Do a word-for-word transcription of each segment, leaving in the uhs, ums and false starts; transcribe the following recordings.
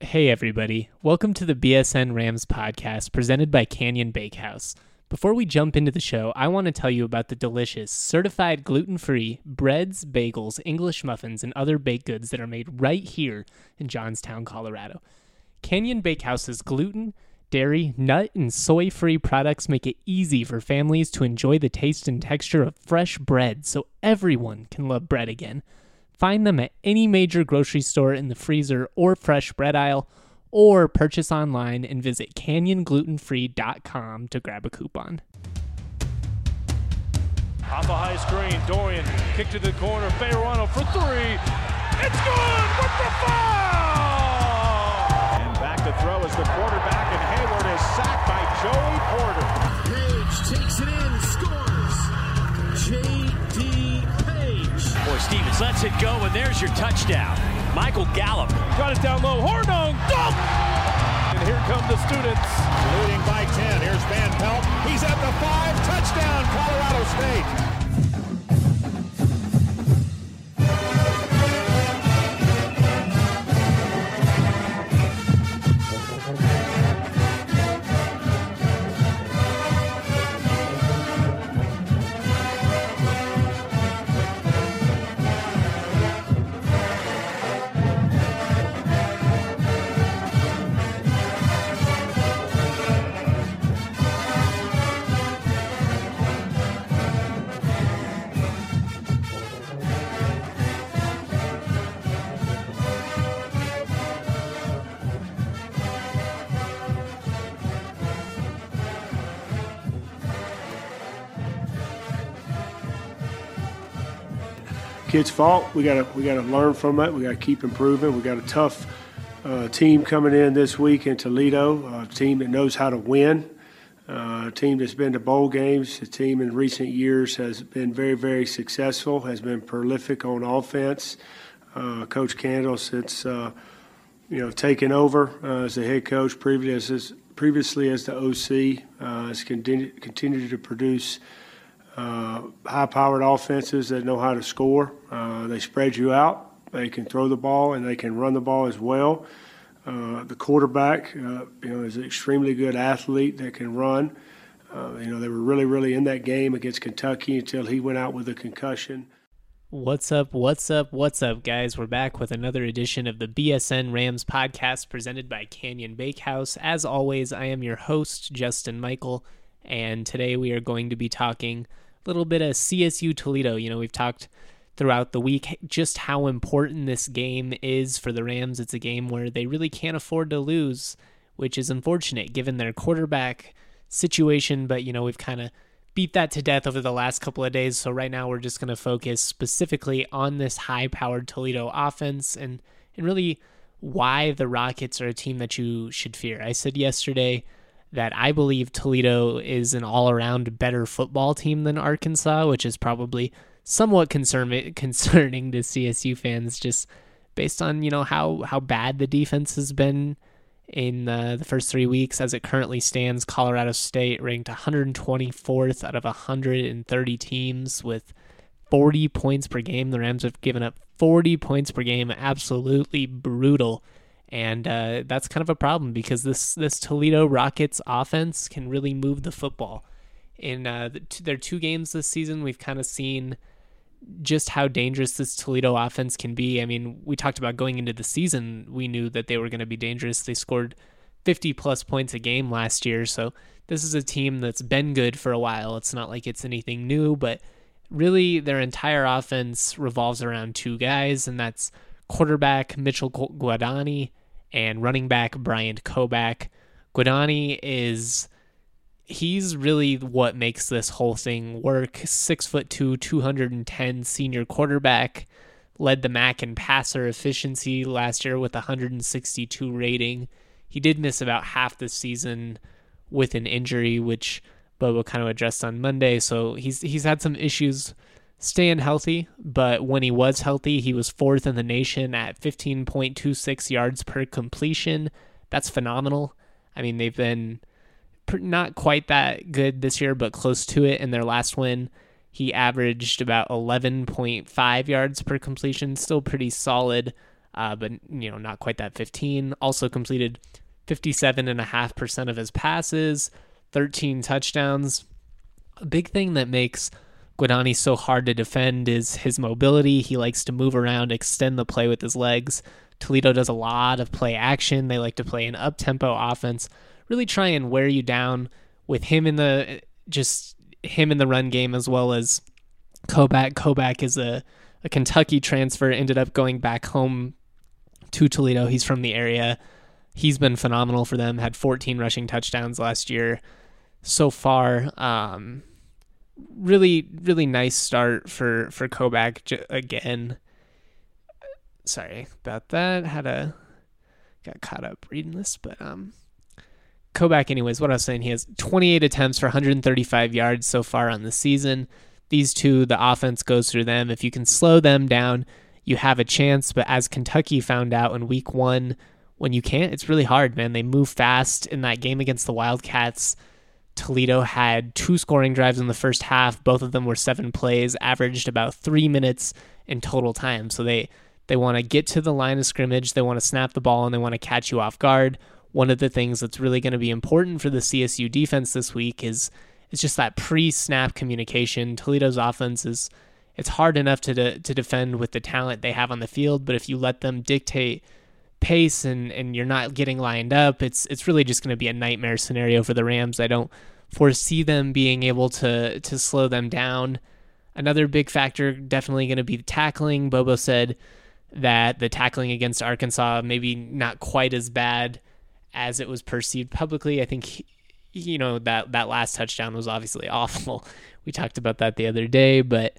Hey everybody, welcome to the B S N Rams podcast presented by Canyon Bakehouse. Before we jump into the show, I want to tell you about the delicious, certified gluten-free breads, bagels, English muffins, and other baked goods that are made right here in Johnstown, Colorado. Canyon Bakehouse's gluten, dairy, nut, and soy-free products make it easy for families to enjoy the taste and texture of fresh bread so everyone can love bread again. Find them at any major grocery store in the freezer or fresh bread aisle, or purchase online and visit canyon gluten free dot com to grab a coupon. Off a high screen, Dorian kick to the corner, Fayerano for three. It's good with the foul! And back to throw is the quarterback, and Hayward is sacked by Joey Porter. Page takes it in, scores. J D Or Stevens lets it go, and there's your touchdown. Michael Gallup. Got it down low. Hornung. Dunk! And here come the students. Leading by ten. Here's Van Pelt. He's at the five. Touchdown, Colorado State. Kids' fault. We gotta we gotta learn from it. We gotta keep improving. We got a tough uh, team coming in this week in Toledo. A team that knows how to win. Uh, a team that's been to bowl games. A team in recent years has been very very successful. Has been prolific on offense. Uh, Coach Candle, since uh, you know taken over uh, as the head coach, previously as previously as the O C, uh, has continued continued to produce Uh, high-powered offenses that know how to score. Uh, they spread you out. They can throw the ball and they can run the ball as well. Uh, the quarterback, uh, you know, is an extremely good athlete that can run. Uh, you know, they were really, really in that game against Kentucky until he went out with a concussion. What's up, what's up, what's up, guys? We're back with another edition of the B S N Rams podcast presented by Canyon Bakehouse. As always, I am your host, Justin Michael, and today we are going to be talking little bit of C S U Toledo. You know, we've talked throughout the week just how important this game is for the Rams. It's a game where they really can't afford to lose, which is unfortunate given their quarterback situation. But, you know, we've kind of beat that to death over the last couple of days. So right now we're just going to focus specifically on this high-powered Toledo offense and, and really why the Rockets are a team that you should fear. I said yesterday that I believe Toledo is an all-around better football team than Arkansas, which is probably somewhat concern- concerning to C S U fans, just based on, you know, how, how bad the defense has been in uh, the first three weeks. As it currently stands, Colorado State ranked one hundred twenty-fourth out of one hundred thirty teams with forty points per game. The Rams have given up forty points per game, absolutely brutal. And uh, that's kind of a problem because this, this Toledo Rockets offense can really move the football. In uh, the t- their two games this season, we've kind of seen just how dangerous this Toledo offense can be. I mean, we talked about going into the season, we knew that they were going to be dangerous. They scored fifty-plus points a game last year, so this is a team that's been good for a while. It's not like it's anything new, but really their entire offense revolves around two guys, and that's quarterback Mitchell Guadani and running back Bryant Koback. Guadani is, he's really what makes this whole thing work. Six foot two, two hundred ten senior quarterback, led the M A C in passer efficiency last year with one hundred sixty-two rating. He did miss about half the season with an injury, which Bubba kind of addressed on Monday. So he's he's had some issues staying healthy, but when he was healthy, he was fourth in the nation at fifteen point two six yards per completion. That's phenomenal. I mean, they've been not quite that good this year, but close to it. In their last win, he averaged about eleven point five yards per completion, still pretty solid. uh, but you know, not quite that fifteen. Also completed fifty-seven point five percent of his passes, thirteen touchdowns. A big thing that makes Guadagni so hard to defend is his mobility. He likes to move around, extend the play with his legs. Toledo does a lot of play action. They like to play an up-tempo offense, really try and wear you down with him in the just him in the run game, as well as Koback. Koback is a, a Kentucky transfer, ended up going back home to Toledo. He's from the area. He's been phenomenal for them, had fourteen rushing touchdowns last year so far. Um, really, really nice start for, for Koback j- again. Sorry about that. Had a got caught up reading this, but um, Koback. Anyways, what I was saying, he has twenty-eight attempts for one hundred thirty-five yards so far on the season. These two, the offense goes through them. If you can slow them down, you have a chance. But as Kentucky found out in week one, when you can't, it's really hard, man. They move fast. In that game against the Wildcats, Toledo had two scoring drives in the first half. Both of them were seven plays, averaged about three minutes in total time. So they They want to get to the line of scrimmage, they want to snap the ball, and they want to catch you off guard. One of the things that's really going to be important for the C S U defense this week is, is just that pre-snap communication. Toledo's offense is it's hard enough to de- to defend with the talent they have on the field, but if you let them dictate pace and, and you're not getting lined up, it's it's really just going to be a nightmare scenario for the Rams. I don't foresee them being able to to slow them down. Another big factor definitely going to be the tackling. Bobo said that the tackling against Arkansas maybe not quite as bad as it was perceived publicly. I think, he, you know, that, that last touchdown was obviously awful. We talked about that the other day, but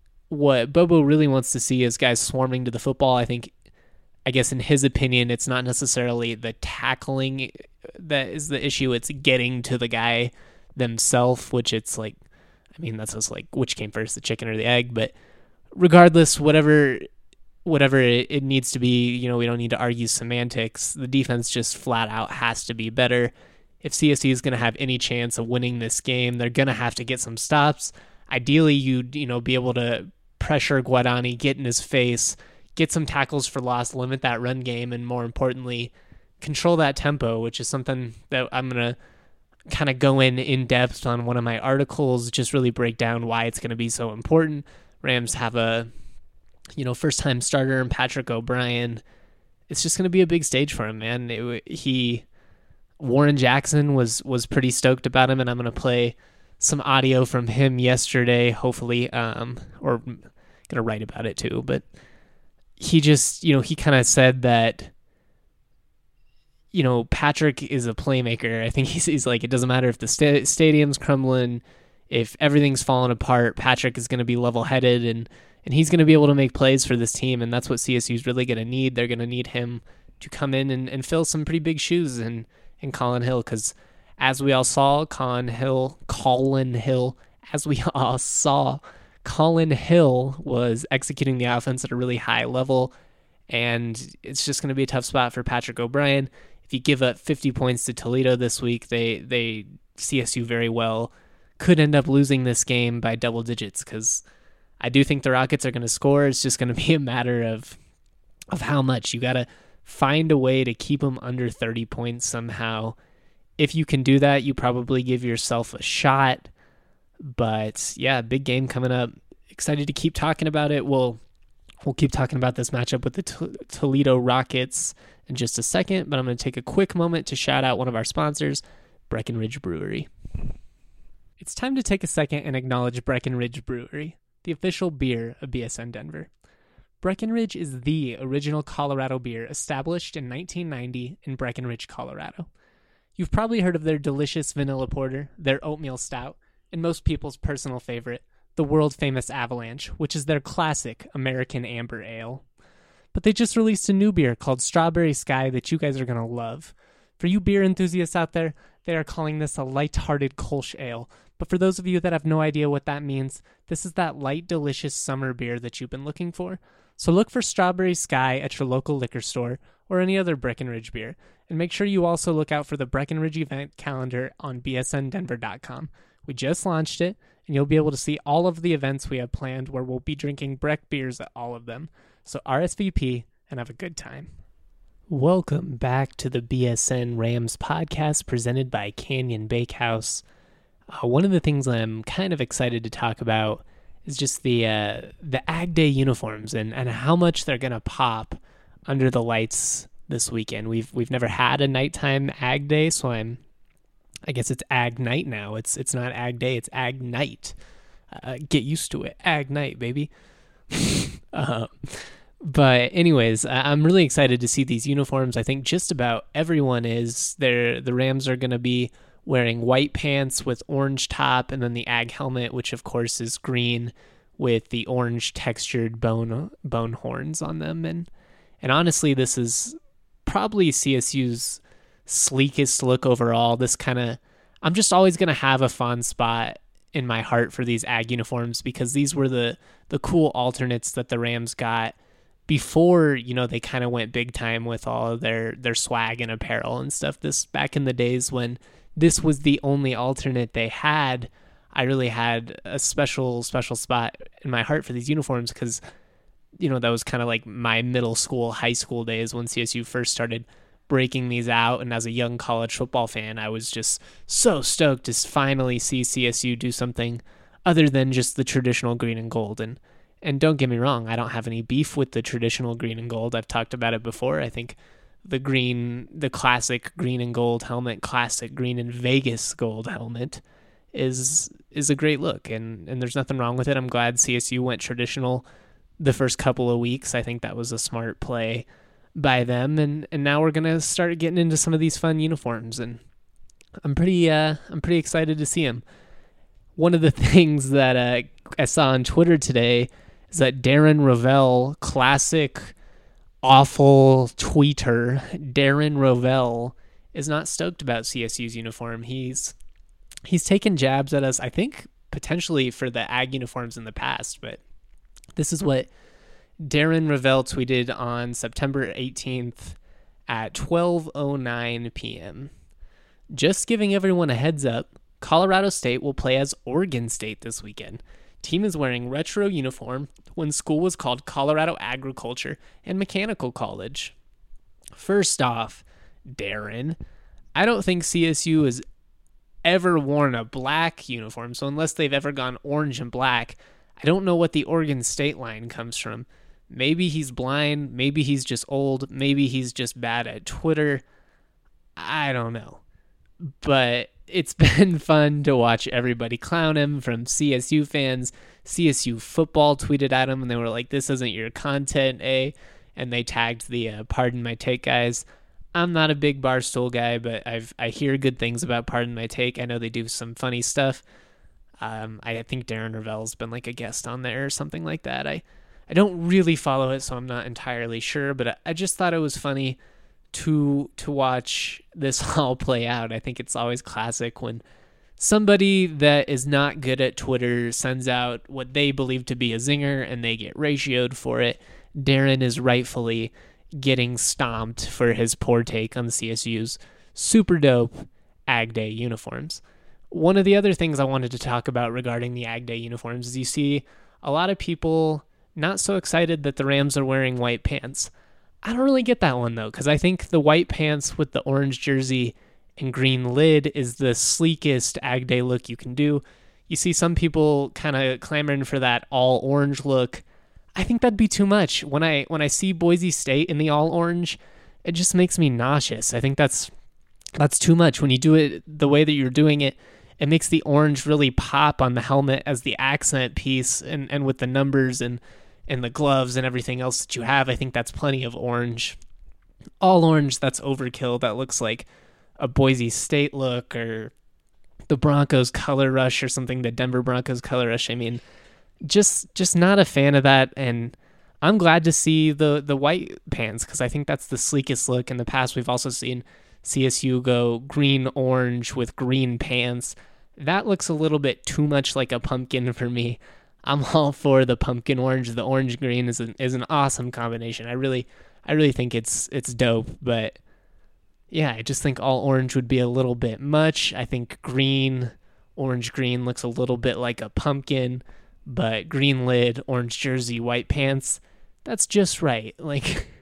what Bobo really wants to see is guys swarming to the football. I think, I guess in his opinion, it's not necessarily the tackling that is the issue. It's getting to the guy themselves, which it's like, I mean, that's just like which came first, the chicken or the egg, but regardless, whatever whatever it, it needs to be, you know, we don't need to argue semantics. The defense just flat out has to be better. If C S U is going to have any chance of winning this game, they're going to have to get some stops. Ideally, you'd, you know, be able to pressure Guadagni, get in his face, get some tackles for loss, limit that run game, and more importantly, control that tempo, which is something that I'm going to kind of go in in depth on one of my articles, just really break down why it's going to be so important. Rams have a, you know, first-time starter and Patrick O'Brien. It's just going to be a big stage for him, man. It, he, Warren Jackson was was pretty stoked about him, and I'm going to play some audio from him yesterday, hopefully, um, or going to write about it too. But he just, you know, he kind of said that, you know, Patrick is a playmaker. I think he's, he's like, it doesn't matter if the sta- stadium's crumbling, if everything's falling apart, Patrick is going to be level-headed, and and he's going to be able to make plays for this team, and that's what C S U is really going to need. They're going to need him to come in and, and fill some pretty big shoes in, in Colin Hill, because as we all saw, Colin Hill, Colin Hill, as we all saw, Colin Hill was executing the offense at a really high level, and it's just going to be a tough spot for Patrick O'Brien. If you give up fifty points to Toledo this week, they, they C S U very well could end up losing this game by double digits, because I do think the Rockets are going to score. It's just going to be a matter of of how much. You got to find a way to keep them under thirty points somehow. If you can do that, you probably give yourself a shot. But yeah, big game coming up. Excited to keep talking about it. We'll we'll keep talking about this matchup with the T- Toledo Rockets in just a second, but I'm going to take a quick moment to shout out one of our sponsors, Breckenridge Brewery. It's time to take a second and acknowledge Breckenridge Brewery, the official beer of B S N Denver. Breckenridge is the original Colorado beer established in nineteen ninety in Breckenridge, Colorado. You've probably heard of their delicious vanilla porter, their oatmeal stout, and most people's personal favorite, the world-famous Avalanche, which is their classic American Amber Ale. But they just released a new beer called Strawberry Sky that you guys are going to love. For you beer enthusiasts out there, they are calling this a light-hearted Kolsch Ale. But for those of you that have no idea what that means, this is that light, delicious summer beer that you've been looking for. So look for Strawberry Sky at your local liquor store or any other Breckenridge beer. And make sure you also look out for the Breckenridge event calendar on b s n denver dot com. We just launched it, and you'll be able to see all of the events we have planned where we'll be drinking Breck beers at all of them. So R S V P and have a good time. Welcome back to the B S N Rams podcast presented by Canyon Bakehouse. Uh, one of the things I'm kind of excited to talk about is just the uh, the Ag Day uniforms and, and how much they're gonna pop under the lights this weekend. We've we've never had a nighttime Ag Day, so I'm I guess it's Ag Night now. It's it's not Ag Day, it's Ag Night. Uh, get used to it, Ag Night, baby. uh, But anyways, I'm really excited to see these uniforms. I think just about everyone is. They're, the Rams are going to be wearing white pants with orange top, and then the Ag helmet, which of course is green with the orange textured bone bone horns on them. And and honestly, this is probably C S U's sleekest look overall. This kind of, I'm just always going to have a fond spot in my heart for these Ag uniforms because these were the the cool alternates that the Rams got before, you know, they kind of went big time with all of their, their swag and apparel and stuff. This back in the days when this was the only alternate they had, I really had a special, special spot in my heart for these uniforms because, you know, that was kind of like my middle school, high school days when C S U first started breaking these out. And as a young college football fan, I was just so stoked to finally see C S U do something other than just the traditional green and gold. And And don't get me wrong, I don't have any beef with the traditional green and gold. I've talked about it before. I think the green, the classic green and gold helmet, classic green and Vegas gold helmet is is a great look, and, and there's nothing wrong with it. I'm glad C S U went traditional the first couple of weeks. I think that was a smart play by them, and, and now we're gonna start getting into some of these fun uniforms, and I'm pretty uh I'm pretty excited to see them. One of the things that uh, I saw on Twitter today is that Darren Rovell, classic awful tweeter, Darren Rovell, is not stoked about C S U's uniform. He's he's taken jabs at us, I think, potentially for the Ag uniforms in the past, but this is what Darren Rovell tweeted on September eighteenth at twelve oh nine p.m. Just giving everyone a heads up, Colorado State will play as Oregon State this weekend. Team is wearing retro uniform when school was called Colorado Agriculture and Mechanical College. First off, Darren, I don't think C S U has ever worn a black uniform, so unless they've ever gone orange and black, I don't know what the Oregon State line comes from. Maybe he's blind, maybe he's just old, maybe he's just bad at Twitter. I don't know. But it's been fun to watch everybody clown him, from C S U fans. C S U football tweeted at him and they were like, this isn't your content, eh? And they tagged the uh, Pardon My Take guys. I'm not a big Barstool guy, but I've I hear good things about Pardon My Take. I know they do some funny stuff. Um, I think Darren Rovell's been like a guest on there or something like that. I, I don't really follow it, so I'm not entirely sure, but I, I just thought it was funny to to watch this all play out. I think it's always classic when somebody that is not good at Twitter sends out what they believe to be a zinger and they get ratioed for it. Darren is rightfully getting stomped for his poor take on C S U's super dope Ag Day uniforms. One of the other things I wanted to talk about regarding the Ag Day uniforms is you see a lot of people not so excited that the Rams are wearing white pants. I don't really get that one, though, because I think the white pants with the orange jersey and green lid is the sleekest Ag Day look you can do. You see some people kind of clamoring for that all orange look. I think that'd be too much. When I when I see Boise State in the all orange, it just makes me nauseous. I think that's that's too much. When you do it the way that you're doing it, it makes the orange really pop on the helmet as the accent piece, and, and with the numbers and and the gloves and everything else that you have. I think that's plenty of orange. All orange, that's overkill. That looks like a Boise State look or the Broncos color rush or something, the Denver Broncos color rush. I mean, just just not a fan of that. And I'm glad to see the, the white pants because I think that's the sleekest look. In the past, we've also seen C S U go green-orange with green pants. That looks a little bit too much like a pumpkin for me. I'm all for the pumpkin orange. The orange green is an is an awesome combination. I really I really think it's it's dope. But yeah, I just think all orange would be a little bit much. I think green, orange green looks a little bit like a pumpkin, but green lid, orange jersey, white pants, that's just right. Like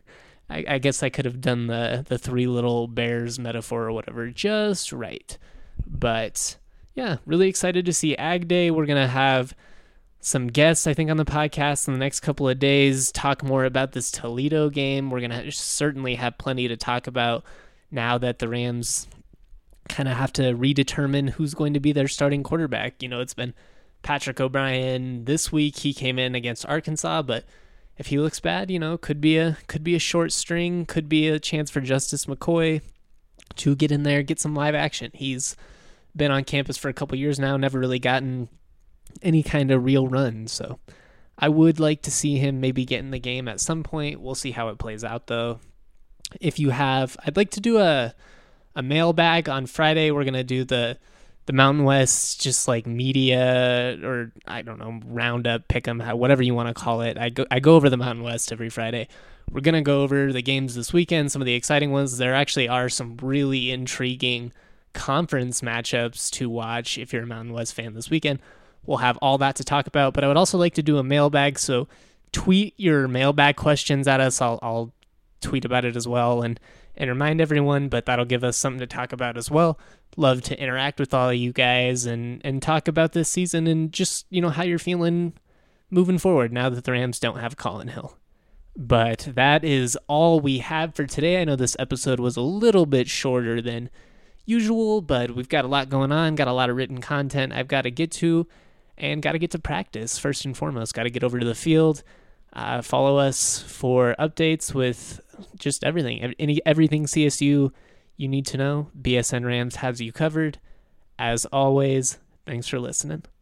I, I guess I could have done the, the three little bears metaphor or whatever just right. But yeah, really excited to see Ag Day. We're going to have some guests, I think, on the podcast in the next couple of days, talk more about this Toledo game. We're going to certainly have plenty to talk about now that the Rams kind of have to redetermine who's going to be their starting quarterback. You know, it's been Patrick O'Brien this week. He came in against Arkansas, but if he looks bad, you know, could be a could be a short string, could be a chance for Justice McCoy to get in there, get some live action. He's been on campus for a couple years now, never really gotten any kind of real run. So I would like to see him maybe get in the game at some point. We'll see how it plays out, though. If you have, I'd like to do a a mailbag on Friday. We're gonna do the the Mountain West, just like media, or I don't know, roundup, pick 'em, whatever you want to call it. I go I go over the Mountain West every Friday. We're gonna go over the games this weekend, some of the exciting ones. There actually are some really intriguing conference matchups to watch if you're a Mountain West fan this weekend. We'll have all that to talk about, but I would also like to do a mailbag, so tweet your mailbag questions at us. I'll, I'll tweet about it as well and, and remind everyone, but that'll give us something to talk about as well. Love to interact with all of you guys and, and talk about this season and just, you know, how you're feeling moving forward now that the Rams don't have Colin Hill. But that is all we have for today. I know this episode was a little bit shorter than usual, but we've got a lot going on, got a lot of written content I've got to get to, and got to get to practice first and foremost. Got to get over to the field. Uh, follow us for updates with just everything. Any everything C S U you need to know. B S N Rams has you covered. As always, thanks for listening.